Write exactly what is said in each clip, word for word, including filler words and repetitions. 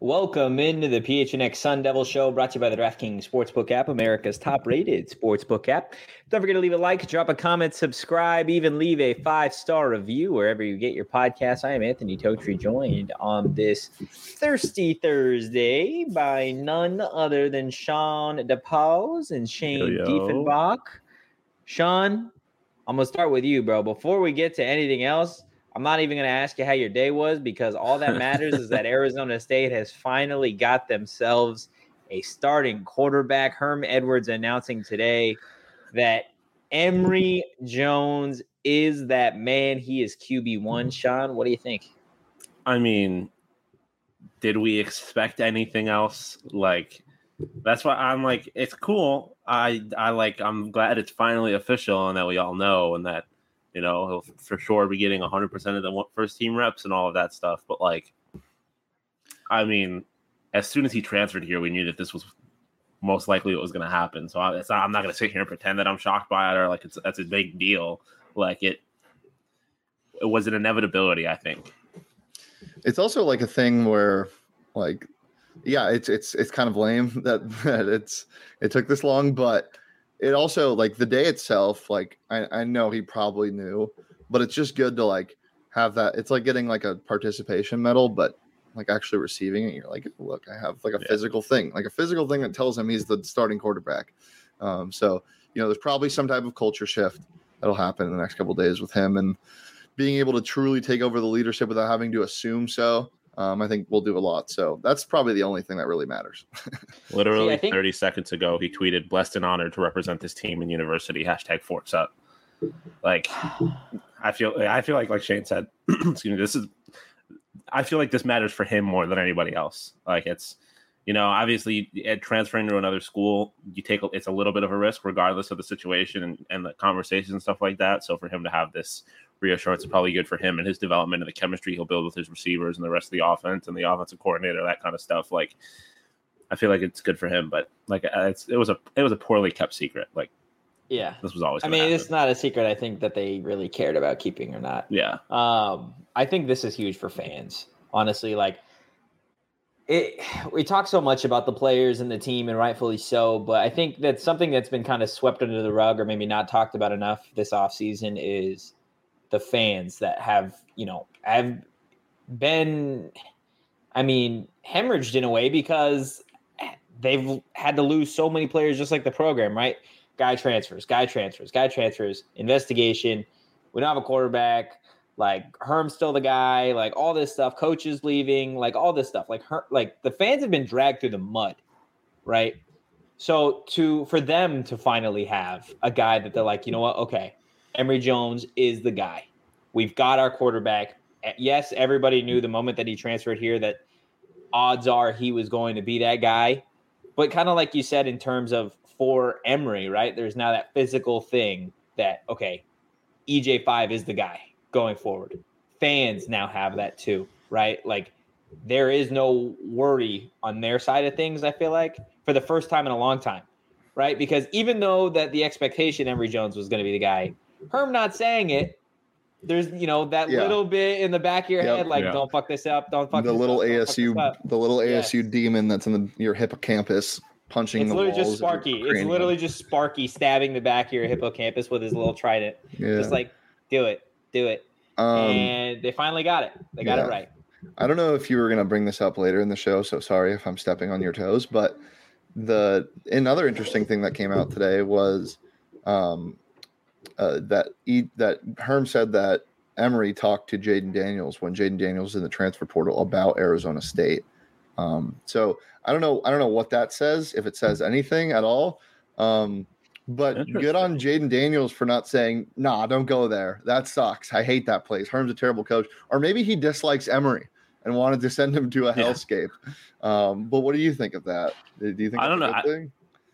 Welcome into the P H N X Sun Devil Show, brought to you by the DraftKings Sportsbook app, America's top-rated sportsbook app. Don't forget to leave a like, drop a comment, subscribe, even leave a five-star review wherever you get your podcast. I am Anthony Totri, joined on this Thirsty Thursday by none other than Sean DePause and Shane Yo, yo. Diefenbach. Sean, I'm going to start with you, bro. Before we get to anything else, I'm not even going to ask you how your day was, because all that matters is that Arizona State has finally got themselves a starting quarterback. Herm Edwards announcing today that Emory Jones is that man. He is Q B one. Sean, what do you think? I mean, did we expect anything else? Like, that's why I'm like, it's cool. I, I like, I'm glad it's finally official and that we all know, and that, you know, he'll for sure be getting one hundred percent of the first team reps and all of that stuff. But, like, I mean, as soon as he transferred here, we knew that this was most likely what was going to happen. So I, it's not, I'm not going to sit here and pretend that I'm shocked by it or like it's that's a big deal. Like, it, it was an inevitability, I think. It's also like a thing where, like, yeah, it's it's it's kind of lame that, that it's it took this long, but it also, like, the day itself, like, I, I know he probably knew, but it's just good to, like, have that. It's like getting, like, a participation medal, but, like, actually receiving it. You're like, look, I have, like, a yeah. physical thing, like a physical thing that tells him he's the starting quarterback. Um, so, you know, there's probably some type of culture shift that'll happen in the next couple of days with him, and being able to truly take over the leadership without having to assume so. Um, I think we'll do a lot. So that's probably the only thing that really matters. Literally See, think- thirty seconds ago, he tweeted, "Blessed and honored to represent this team in university. Hashtag Forks Up." Like, I feel, I feel like, like Shane said, excuse me, this is, I feel like this matters for him more than anybody else. Like, it's, you know, obviously transferring to another school, you take, it's a little bit of a risk regardless of the situation and, and the conversations and stuff like that. So for him to have this reassurance is probably good for him and his development and the chemistry he'll build with his receivers and the rest of the offense and the offensive coordinator, that kind of stuff. Like, I feel like it's good for him, but like, it's, it was a, it was a poorly kept secret. Like, yeah, this was always, I mean, happen. It's not a secret, I think, that they really cared about keeping or not. Yeah. Um, I think this is huge for fans, honestly. Like, it, we talk so much about the players and the team, and rightfully so, but I think that's something that's been kind of swept under the rug or maybe not talked about enough this offseason is the fans that have, you know, have been, I mean, hemorrhaged in a way because they've had to lose so many players, just like the program, right? Guy transfers, guy transfers, guy transfers, investigation. We don't have a quarterback. Like, Herm's still the guy, like all this stuff, coaches leaving, like all this stuff. Like, her, like the fans have been dragged through the mud, right? So to for them to finally have a guy that they're like, you know what, okay, Emory Jones is the guy. We've got our quarterback. Yes, everybody knew the moment that he transferred here that odds are he was going to be that guy. But kind of like you said, in terms of for Emory, right, there's now that physical thing that, okay, E J five is the guy going forward. Fans now have that too, right? Like, there is no worry on their side of things, I feel like, for the first time in a long time, right? Because even though that the expectation Emory Jones was going to be the guy, Herm not saying it, there's, you know, that yeah. little bit in the back of your yep. head, like, yeah. don't fuck this up, don't fuck the this little up, A S U, the little A S U yes. demon that's in the, your hippocampus punching it's the literally walls. Just Sparky. It's literally just Sparky stabbing the back of your hippocampus with his little trident. Yeah. Just like, do it, do it. Um, and they finally got it. They got yeah. it right. I don't know if you were going to bring this up later in the show, so sorry if I'm stepping on your toes. But the another interesting thing that came out today was um, uh, that e, that Herm said that Emory talked to Jayden Daniels when Jayden Daniels was in the transfer portal about Arizona State. Um, so I don't know. I don't know what that says, if it says anything at all. Um, But good on Jayden Daniels for not saying, nah, don't go there. That sucks. I hate that place. Herm's a terrible coach. Or maybe he dislikes Emory and wanted to send him to a hellscape. Yeah. Um, but what do you think of that? Do you think I don't that's know. a good thing?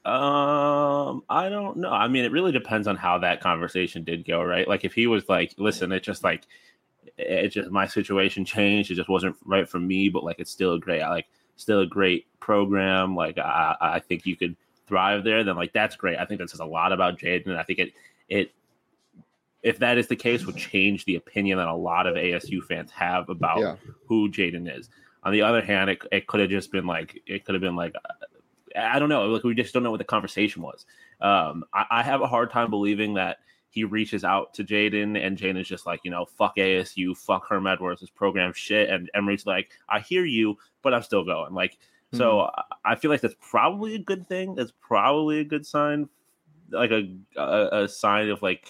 Um, I don't know. I mean, it really depends on how that conversation did go, right? Like, if he was like, listen, it's just like, it just, my situation changed. It just wasn't right for me, but like, it's still a great, like, still a great program. Like, I, I think you could thrive there. Then, like, that's great. I think that says a lot about Jayden. I think it, it, if that is the case, would change the opinion that a lot of A S U fans have about yeah. who Jayden is. On the other hand, it, it could have just been like it could have been like I don't know. Like we just don't know what the conversation was. Um, I, I have a hard time believing that he reaches out to Jaden and Jaden's just like, you know, fuck A S U, fuck Herm Edwards, this program shit. And Emory's like, I hear you, but I'm still going. Like, mm-hmm. so I feel like that's probably a good thing. That's probably a good sign, like a a, a sign of like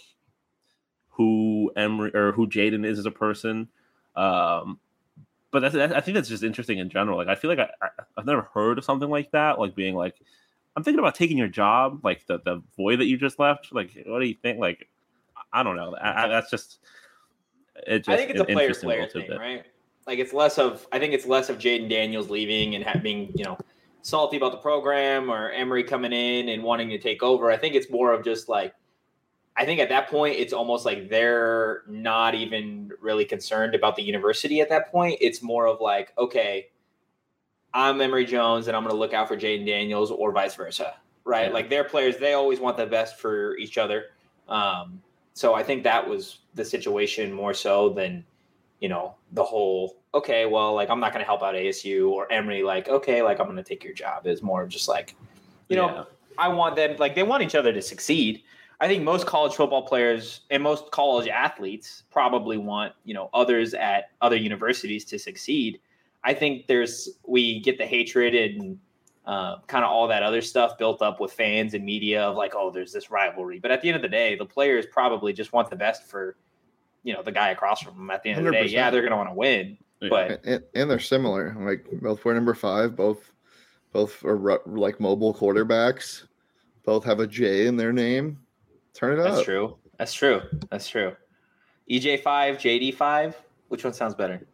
who Emory or who Jaden is as a person. Um, but that's, that's, I think that's just interesting in general. Like, I feel like I, I, I've never heard of something like that. Like being like, I'm thinking about taking your job, like the, the void that you just left. Like, what do you think? Like, I don't know. I, I, that's just, it just. I think it's a player player thing, bit. Right? Like, it's less of, I think it's less of Jaden Daniels leaving and ha- being, you know, salty about the program or Emory coming in and wanting to take over. I think it's more of just like, I think at that point, it's almost like they're not even really concerned about the university at that point. It's more of like, okay, I'm Emory Jones and I'm going to look out for Jaden Daniels or vice versa, right? Yeah. Like their players, they always want the best for each other. Um, so I think that was the situation more so than, you know, the whole, okay, well, like I'm not going to help out A S U or Emory, like, okay, like I'm going to take your job. It's more of just like, you know, yeah. I want them, like they want each other to succeed. I think most college football players and most college athletes probably want, you know, others at other universities to succeed. I think there's we get the hatred and uh, kind of all that other stuff built up with fans and media of like, oh, there's this rivalry. But at the end of the day, the players probably just want the best for, you know, the guy across from them. At the end of the day, yeah, they're going to want to win. Yeah. But and, and they're similar. Like both were number five. Both both are like mobile quarterbacks. Both have a J in their name. Turn it up. That's true. That's true. That's true. E J five, J D five. Which one sounds better?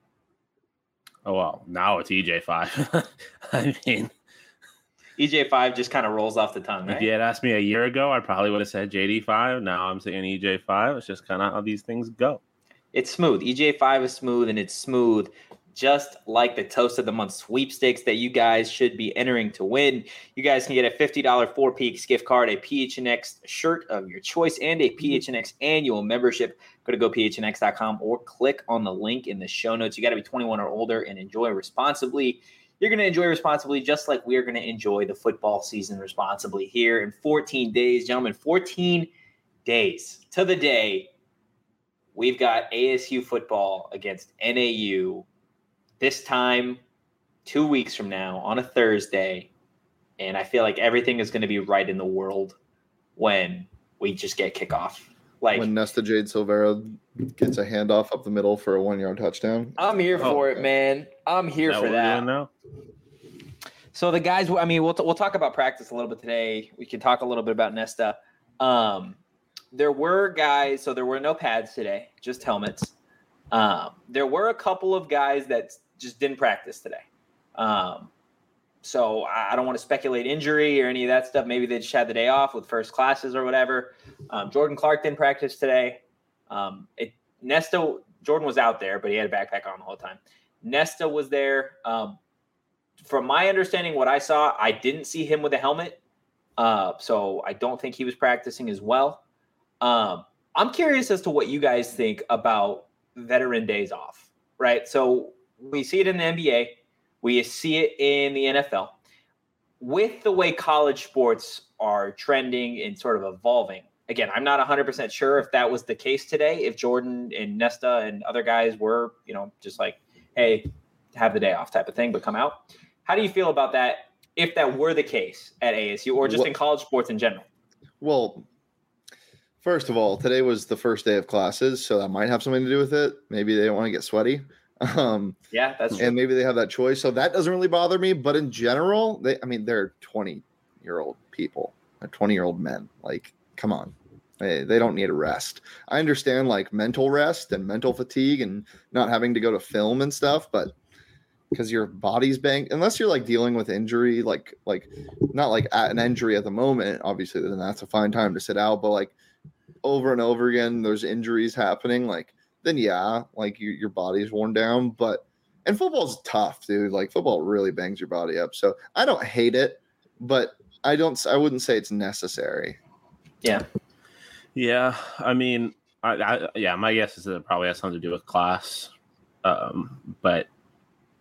Oh, well, now it's E J five. I mean, E J five just kind of rolls off the tongue, right? If you had asked me a year ago, I probably would have said J D five. Now I'm saying E J five. It's just kind of how these things go. It's smooth. E J five is smooth, and it's smooth just like the Toast of the Month sweepstakes that you guys should be entering to win. You guys can get a fifty dollars Four Peaks gift card, a P H N X shirt of your choice, and a P H N X annual membership. Go to go P H N X dot com or click on the link in the show notes. You got to be twenty-one or older and enjoy responsibly. You're going to enjoy responsibly just like we're going to enjoy the football season responsibly here in fourteen days. Gentlemen, fourteen days to the day. We've got A S U football against N A U. This time, two weeks from now, on a Thursday, and I feel like everything is going to be right in the world when we just get kickoff. Like when Nesta Jade Silvera gets a handoff up the middle for a one-yard touchdown. I'm here for oh, it, man. I'm here for that. Now? So the guys, I mean, we'll t- we'll talk about practice a little bit today. We can talk a little bit about Nesta. Um, there were guys, so there were no pads today, just helmets. Um, there were a couple of guys that just didn't practice today. Um, so I don't want to speculate injury or any of that stuff. Maybe they just had the day off with first classes or whatever. Um, Jordan Clark didn't practice today. Um, it, Nesta, Jordan was out there, but he had a backpack on the whole time. Nesta was there. Um, from my understanding, what I saw, I didn't see him with a helmet. Uh, so I don't think he was practicing as well. Um, I'm curious as to what you guys think about veteran days off, right? So we see it in the N B A. We see it in the N F L. With the way college sports are trending and sort of evolving, again, I'm not one hundred percent sure if that was the case today, if Jordan and Nesta and other guys were, you know, just like, hey, have the day off type of thing, but come out. How do you feel about that if that were the case at A S U or just well, in college sports in general? Well, first of all, today was the first day of classes, so that might have something to do with it. Maybe they don't want to get sweaty. Um, yeah, that's true. And maybe they have that choice. So that doesn't really bother me. But in general, they, I mean, they're twenty-year-old people, twenty-year-old men. Like, come on. They, they don't need a rest. I understand, like, mental rest and mental fatigue and not having to go to film and stuff, but because your body's banged, unless you're, like, dealing with injury, like, like not like at an injury at the moment, obviously, then that's a fine time to sit out. But, like, over and over again, there's injuries happening, like, then yeah, like you, your body's worn down. But and football's tough, dude. Like football really bangs your body up. So I don't hate it, but I don't. I wouldn't say it's necessary. Yeah, yeah. I mean, I, I yeah. My guess is that it probably has something to do with class. Um, but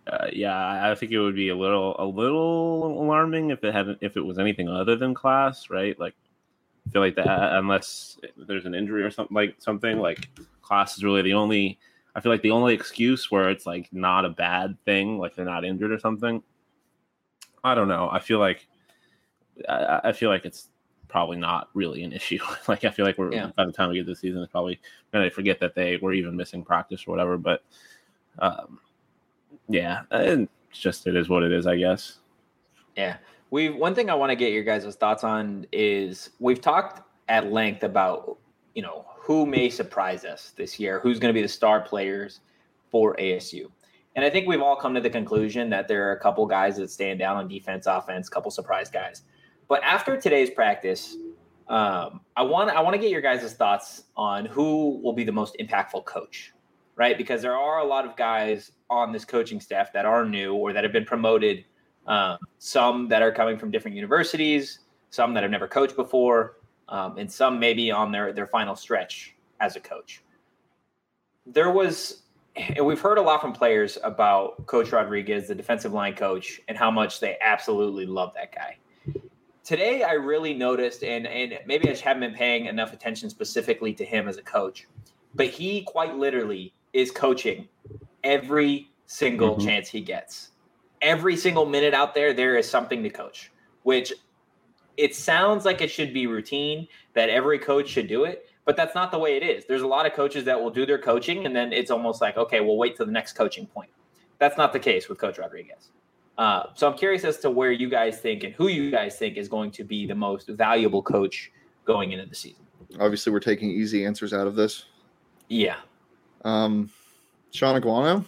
uh, yeah, I think it would be a little a little alarming if it hadn't if it was anything other than class, right? Like, I feel like that unless there's an injury or something like something like class is really the only. I feel like the only excuse where it's like not a bad thing, like they're not injured or something. I don't know. I feel like I, I feel like it's probably not really an issue. Like I feel like we're yeah. by the time we get this season, it's probably going to forget that they were even missing practice or whatever. But um, yeah, it's just it is what it is, I guess. Yeah, we one thing I want to get your guys' thoughts on is we've talked at length about you know who may surprise us this year, who's going to be the star players for A S U. And I think we've all come to the conclusion that there are a couple guys that stand out on defense, offense, a couple surprise guys. But after today's practice, um, I want I want to get your guys' thoughts on who will be the most impactful coach, right? Because there are a lot of guys on this coaching staff that are new or that have been promoted, um, some that are coming from different universities, some that have never coached before, um, and some maybe on their, their final stretch as a coach. There was – and we've heard a lot from players about Coach Rodriguez, the defensive line coach, and how much they absolutely love that guy. Today, I really noticed, and, and maybe I just haven't been paying enough attention specifically to him as a coach, but he quite literally is coaching every single mm-hmm. chance he gets. Every single minute out there, there is something to coach, which it sounds like it should be routine, that every coach should do it, but that's not the way it is. There's a lot of coaches that will do their coaching, and then it's almost like, okay, we'll wait till the next coaching point. That's not the case with Coach Rodriguez. Uh, so I'm curious as to where you guys think and who you guys think is going to be the most valuable coach going into the season. Obviously, we're taking easy answers out of this. Yeah. Um, Sean Aguano,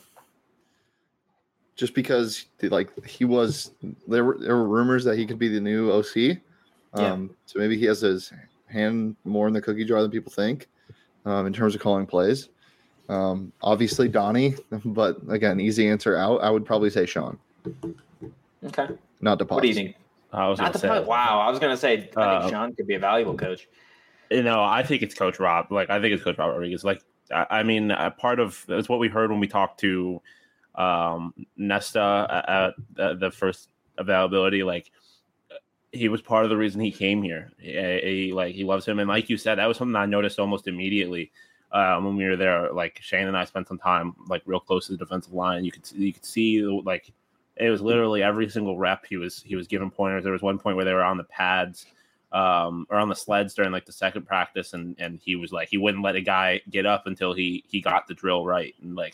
just because like he was there were there were rumors that he could be the new O C. Um, yeah. So maybe he has his hand more in the cookie jar than people think um, in terms of calling plays. Um, obviously Donnie, but again, easy answer out. I would probably say Sean. Okay. Not DePaz. What do you think? I was Not say, wow. I was going to say, I uh, think Sean could be a valuable coach. You know, I think it's Coach Rob. Like, I think it's Coach Rob Rodriguez. Like, I, I mean, a part of it's what we heard when we talked to um, Nesta at, at the first availability. Like, he was part of the reason he came here. He, he like he loves him, and like you said, that was something I noticed almost immediately um, when we were there. Like Shane and I spent some time like real close to the defensive line. You could you could see like. It was literally every single rep he was he was giving pointers. There was one point where they were on the pads um, or on the sleds during like the second practice, and and he was like he wouldn't let a guy get up until he he got the drill right. And like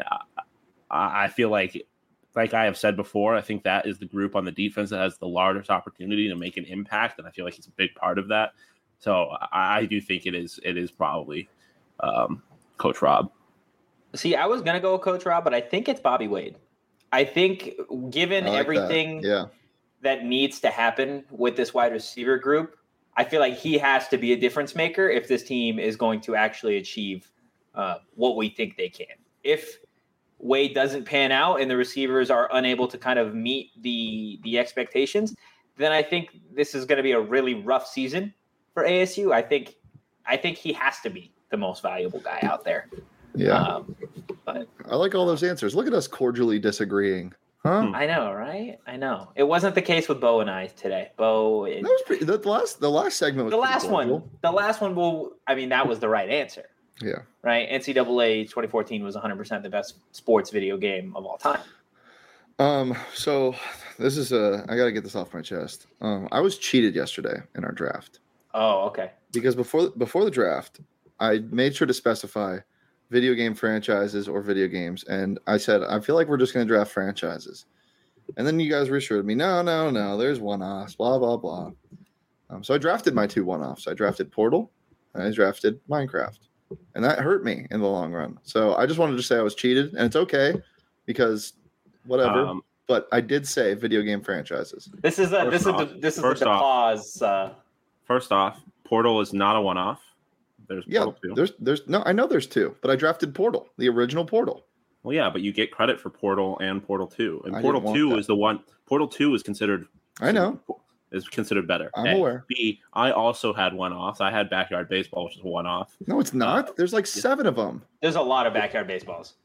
I, I feel like like I have said before, I think that is the group on the defense that has the largest opportunity to make an impact, and I feel like he's a big part of that. So I, I do think it is it is probably um, Coach Rob. See, I was gonna go with Coach Rob, but I think it's Bobby Wade. I think given I like everything that. Yeah. that needs to happen with this wide receiver group, I feel like he has to be a difference maker if this team is going to actually achieve uh, what we think they can. If Wade doesn't pan out and the receivers are unable to kind of meet the the expectations, then I think this is going to be a really rough season for A S U. I think I think he has to be the most valuable guy out there. Yeah. Um, but I like all those answers. Look at us cordially disagreeing. Huh? I know, right? I know. It wasn't the case with Bo and I today. Bo and, that was pretty, the last the last segment was the last cordial. one. The last one will I mean that was the right answer. Yeah. Right? N C double A twenty fourteen was one hundred percent the best sports video game of all time. Um so this is a I got to get this off my chest. Um I was cheated yesterday in our draft. Oh, okay. Because before before the draft, I made sure to specify video game franchises or video games. And I said, I feel like we're just going to draft franchises. And then you guys reassured me, no, no, no, there's one-offs, blah, blah, blah. Um, so I drafted my two one-offs. I drafted Portal and I drafted Minecraft. And that hurt me in the long run. So I just wanted to say I was cheated. And it's okay because whatever. Um, but I did say video game franchises. This is a, this off, is the, this is the pause. Uh... First off, Portal is not a one-off. There's yeah, Portal two. there's there's no I know there's two, but I drafted Portal, the original Portal. Well, yeah, but you get credit for Portal and Portal two. And I Portal two is the one Portal two is considered I know. is considered better. I'm A. aware. B, I also had one off. I had Backyard Baseball, which is one off. No, it's not. Uh, there's like seven yeah. of them. There's a lot of Backyard Baseballs.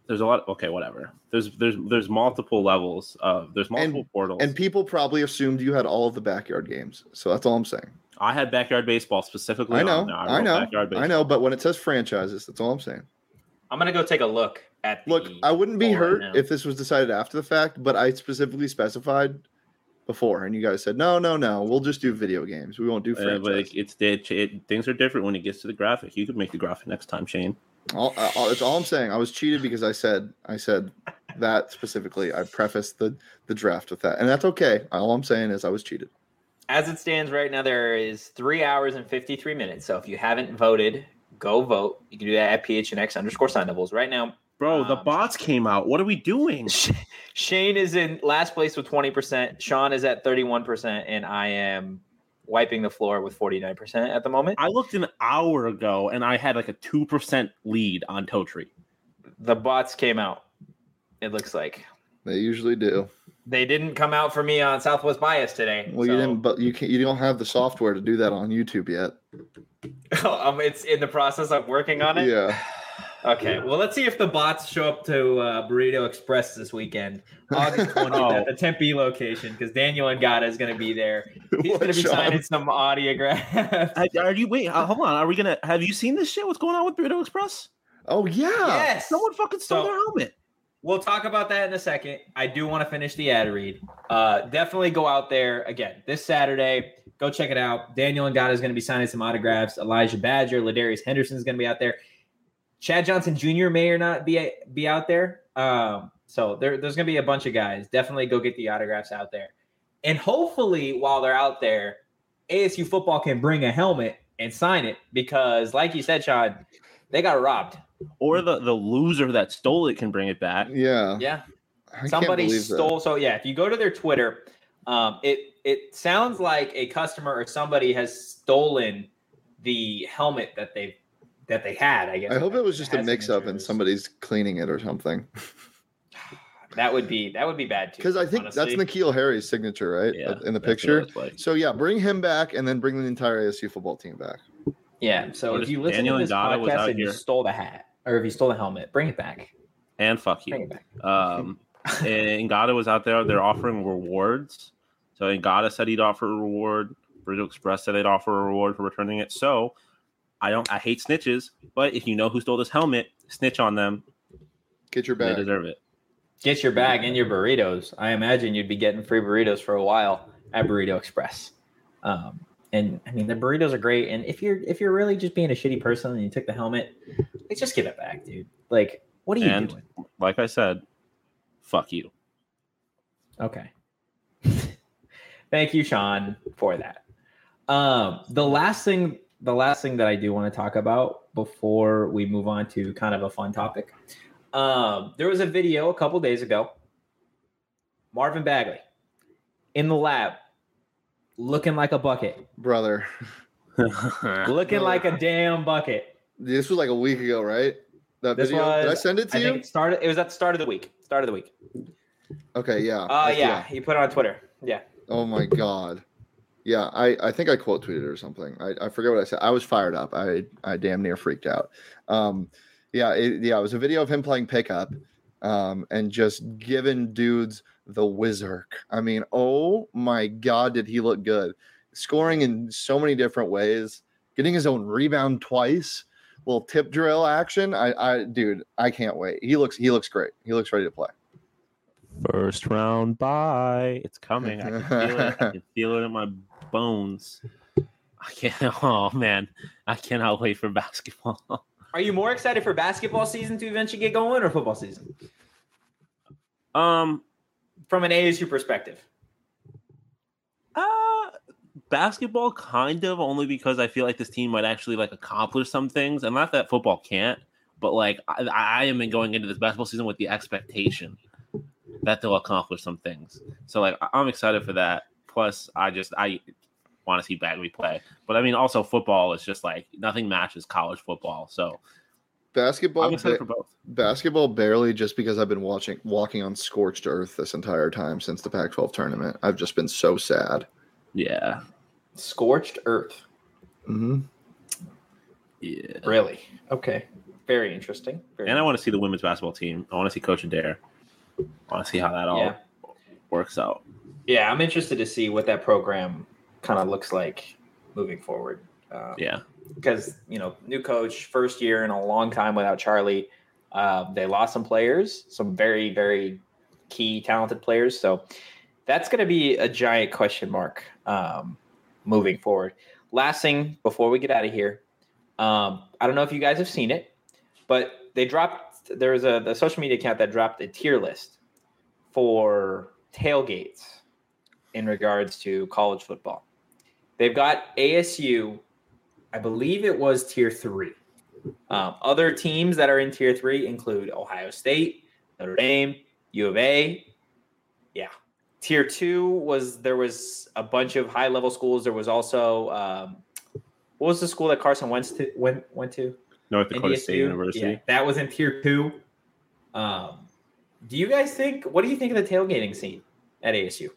there's a lot. Okay, whatever. There's there's there's multiple levels of there's multiple and, portals, and people probably assumed you had all of the backyard games. So that's all I'm saying. I had backyard baseball specifically. I know, on I, I know, backyard baseball. I know. But when it says franchises, that's all I'm saying. I'm gonna go take a look at. The Look, I wouldn't be hurt right if this was decided after the fact, but I specifically specified before, and you guys said no, no, no. We'll just do video games. We won't do franchises. Uh, but it, it's it, it, things are different when it gets to the graphic. You could make the graphic next time, Shane. All, all, that's all I'm saying. I was cheated because I said I said that specifically. I prefaced the the draft with that, and that's okay. All I'm saying is I was cheated. As it stands right now, there is three hours and fifty-three minutes. So if you haven't voted, go vote. You can do that at P H N X underscore sign doubles right now. Bro, the um, bots came out. What are we doing? Shane is in last place with twenty percent. Sean is at thirty-one percent, and I am wiping the floor with forty-nine percent at the moment. I looked an hour ago, and I had like a two percent lead on Totri. The bots came out, it looks like. They usually do. They didn't come out for me on Southwest Bias today. Well, so. you didn't, but you can't. You don't have the software to do that on YouTube yet. um, it's in the process of working on it. Yeah. Okay. Well, let's see if the bots show up to uh, Burrito Express this weekend, August twentieth Oh. at the Tempe location, because Daniel Ngata is going to be there. He's What, going to be Sean? signing some autographs. Are are you wait? uh, Hold on. Are we gonna? Have you seen this shit? What's going on with Burrito Express? Oh yeah. Yes. Someone fucking stole So- their helmet. We'll talk about that in a second. I do want to finish the ad read. Uh, definitely go out there again this Saturday. Go check it out. Daniel Ngata is going to be signing some autographs. Elijah Badger, Ladarius Henderson is going to be out there. Chad Johnson Junior may or not be be out there. Um, so there, there's going to be a bunch of guys. Definitely go get the autographs out there. And hopefully, while they're out there, A S U football can bring a helmet and sign it because, like you said, Sean, they got robbed. Or the, the loser that stole it can bring it back. Yeah. Yeah. I can't Somebody believe stole. that. So yeah, if you go to their Twitter, um, it it sounds like a customer or somebody has stolen the helmet that they that they had. I guess. I hope it was just a Has mix-up and signatures. somebody's cleaning it or something. That would be that would be bad too. Because I think honestly. that's Nikhil Harry's signature, right? Yeah, In the that's what it picture. looks like. So yeah, bring him back and then bring the entire A S U football team back. Yeah. So Or if just you listen Daniel to this Ngata was podcast out and you here. stole the hat, or if you stole the helmet, bring it back. And fuck Bring you. it back. Um, and Ngata was out there. They're offering rewards. So Ngata said he'd offer a reward. Burrito Express said they'd offer a reward for returning it. So I don't. I hate snitches. But if you know who stole this helmet, snitch on them. Get your They bag. deserve it. Get your bag and your burritos. I imagine you'd be getting free burritos for a while at Burrito Express. Um, and I mean the burritos are great. And if you're if you're really just being a shitty person and you took the helmet, like just give it back, dude. Like, what are you And doing? like I said, fuck you. Okay. Thank you, Sean, for that. Um, the last thing, the last thing that I do want to talk about before we move on to kind of a fun topic. Um, there was a video a couple days ago. Marvin Bagley in the lab, looking like a bucket, Brother. looking like a damn bucket. This was like a week ago, right? That This video. was. Did I send it to I you? think it started. It was at the start of the week. Start of the week. Okay, yeah. Uh, I- yeah, he put it on Twitter. Yeah. Oh my god. Yeah, I, I think I quote tweeted it or something. I, I forget what I said. I was fired up. I I damn near freaked out. Um, yeah, it, yeah, it was a video of him playing pickup, um, and just giving dudes the whizzer. I mean, oh my god, did he look good? Scoring in so many different ways, getting his own rebound twice, little tip drill action. I, I, dude, I can't wait. He looks he looks great. He looks ready to play. First round bye. It's coming. I can feel it. I can feel it in my bones. I can't. Oh man, I cannot wait for basketball. Are you more excited for basketball season to eventually get going or football season? Um, From an A S U perspective. uh, basketball kind of only because I feel like this team might actually like accomplish some things, and not that football can't, but like I, I am going into this basketball season with the expectation that they'll accomplish some things. So like I- I'm excited for that. Plus, I just I want to see Bagley play, but I mean also football is just like nothing matches college football. So Basketball. I'm excited ba- for both. Basketball barely, just because I've been watching walking on scorched earth this entire time since the Pac twelve tournament. I've just been so sad. Yeah, Scorched earth. Mm-hmm. Yeah. Really? Okay. Very interesting. Very And I want to see the women's basketball team. I want to see Coach Adair. I want to see how that all Yeah. works out. Yeah, I'm interested to see what that program kind of looks like moving forward. Um, Yeah. Because, you know, new coach, first year in a long time without Charlie. Uh, they lost some players, some very, very key talented players. So that's going to be a giant question mark um, moving forward. Last thing before we get out of here, um, I don't know if you guys have seen it, but they dropped, there was a the social media account that dropped a tier list for tailgates in regards to college football. They've got A S U, I believe it was tier three. Um, other teams that are in tier three include Ohio State, Notre Dame, U of A. Yeah. Tier two was, there was a bunch of high level schools. There was also, um, what was the school that Carson went to? Went, went to? North Dakota N D S U? State University. Yeah, that was in tier two. Um, do you guys think, what do you think of the tailgating scene at A S U?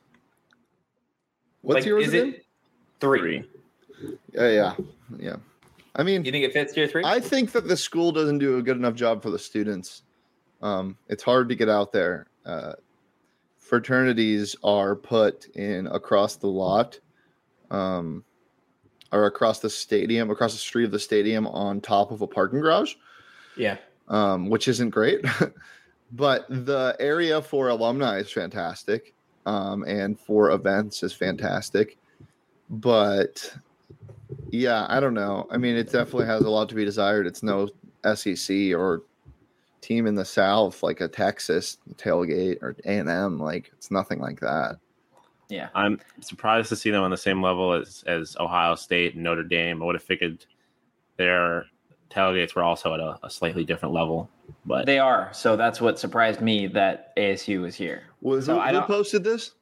What's Like, yours is again? it three? Yeah, yeah, yeah. I mean, You think it fits tier three? I think that the school doesn't do a good enough job for the students. Um, it's hard to get out there. Uh, fraternities are put in across the lot, um, or across the stadium, across the street of the stadium, on top of a parking garage. Yeah. Um, which isn't great. But the area for alumni is fantastic, um, and for events is fantastic. But yeah, I don't know. I mean, it definitely has a lot to be desired. It's no S E C or team in the South like a Texas tailgate or A and M. Like, it's nothing like that. Yeah. I'm surprised to see them on the same level as, as Ohio State and Notre Dame. I would have figured their tailgates were also at a, a slightly different level. But They are. So that's what surprised me, that A S U was here. Well, So who, I who don't- posted this?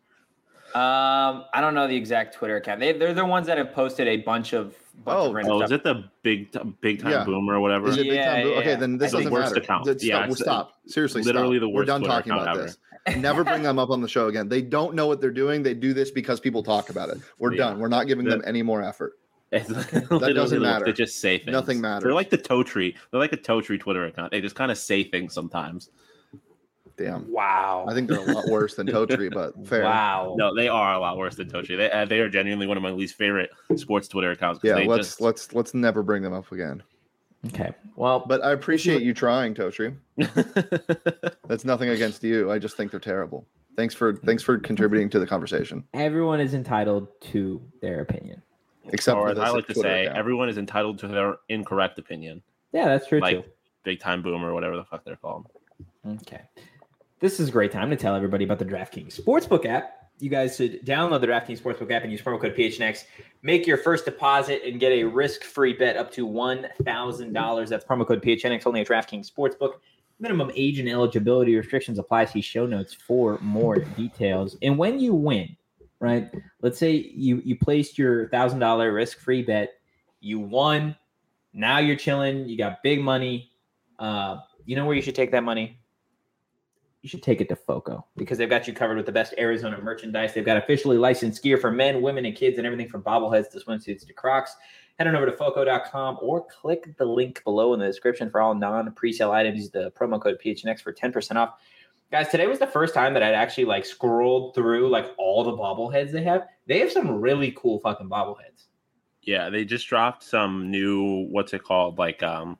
Um, I don't know the exact Twitter account. They, they're the ones that have posted a bunch of bunch Oh, of random oh, is stuff. it the big big time Yeah. boomer or whatever? Is it big Yeah, time? Boo- yeah, okay, yeah. then this I think doesn't worst matter. account. Stop, Yeah, we'll it's stop. Seriously, literally stop. the We're worst done Twitter talking account about ever. this. Never bring them up on the show again. They don't know what they're doing. They do this because people talk about it. We're Yeah. done. We're not giving them That- any more effort. It's That literally doesn't the worst. matter. They just say things. Nothing matters. They're like the toe tree. They're like a toe tree Twitter account. They just kind of say things sometimes. Damn. Wow. I think they're a lot worse than Totri, but fair. Wow. No, they are a lot worse than Tochi. They uh, they are genuinely one of my least favorite sports Twitter accounts. 'Cause Yeah, they let's just... let's let's never bring them up again. Okay. Well, But I appreciate you trying, Totri. That's nothing against you. I just think they're terrible. Thanks for thanks for contributing to the conversation. everyone is entitled to their opinion. Except or for as this I like to Twitter say, account. everyone is entitled to their incorrect opinion. Yeah, that's true Like too. big time boomer, whatever the fuck they're called. Okay. This is a great time to tell everybody about the DraftKings Sportsbook app. You guys should download the DraftKings Sportsbook app and use promo code P H N X. Make your first deposit and get a risk-free bet up to one thousand dollars. That's promo code P H N X only at DraftKings Sportsbook. Minimum age and eligibility restrictions apply. See show notes for more details. And when you win, right, let's say you, you placed your one thousand dollars risk-free bet. You won. Now you're chilling. You got big money. Uh, you know where you should take that money? You should take it to FOCO because they've got you covered with the best Arizona merchandise. They've got officially licensed gear for men, women, and kids, and everything from bobbleheads to swimsuits to Crocs. Head on over to foco dot com or click the link below in the description for all non-presale items. Use the promo code P H N X for ten percent off. Guys, today was the first time that I'd actually like scrolled through like all the bobbleheads they have. They have some really cool fucking bobbleheads. Yeah, they just dropped some new what's it called, like um,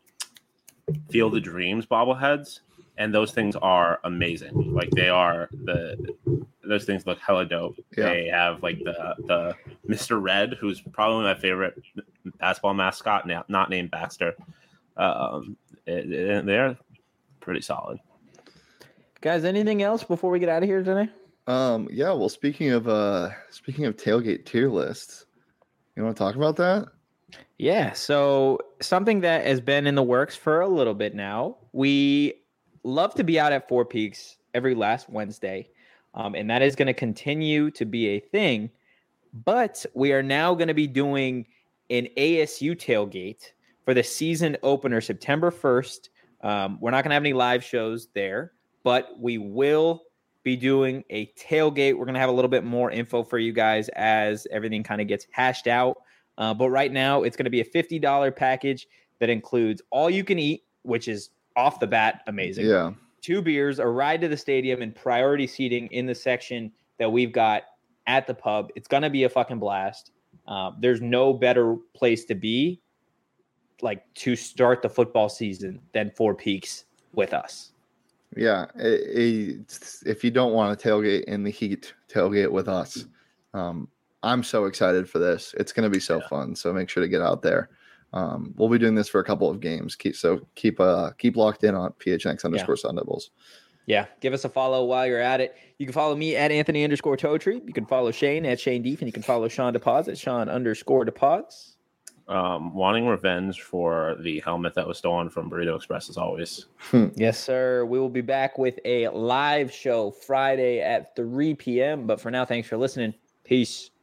Field of Dreams bobbleheads, and those things are amazing. Like they are the those things look hella dope. Yeah. They have like the the Mister Red, who's probably my favorite basketball mascot, now not named Baxter. Um, it, it- they're pretty solid. Guys, anything else before we get out of here today? Um, yeah, well, speaking of uh speaking of tailgate tier lists, you want to talk about that? Yeah, so something that has been in the works for a little bit now. We love to be out at Four Peaks every last Wednesday, um, and that is going to continue to be a thing. But we are now going to be doing an A S U tailgate for the season opener September first. Um, we're not going to have any live shows there, but we will be doing a tailgate. We're going to have a little bit more info for you guys as everything kind of gets hashed out. Uh, but right now, it's going to be a fifty dollars package. that includes all you can eat, which is off the bat amazing. Yeah. Two beers, a ride to the stadium, and priority seating in the section that we've got at the pub. It's going to be a fucking blast. Uh, there's no better place to be, like, to start the football season than Four Peaks with us. Yeah. It, it, if you don't want to tailgate in the heat, tailgate with us. Um, I'm so excited for this. It's going to be so yeah. fun. So make sure to get out there. Um, we'll be doing this for a couple of games. Keep so keep uh keep locked in on P H N X underscore yeah. Sun Devils. Yeah, give us a follow while you're at it. You can follow me at Anthony underscore Totri. You can follow Shane at Shane Deef, and you can follow Sean DePoz at Sean underscore DePoz. Um, wanting revenge for the helmet that was stolen from Burrito Express as always. Yes, sir. We will be back with a live show Friday at three p.m. But for now, thanks for listening. Peace.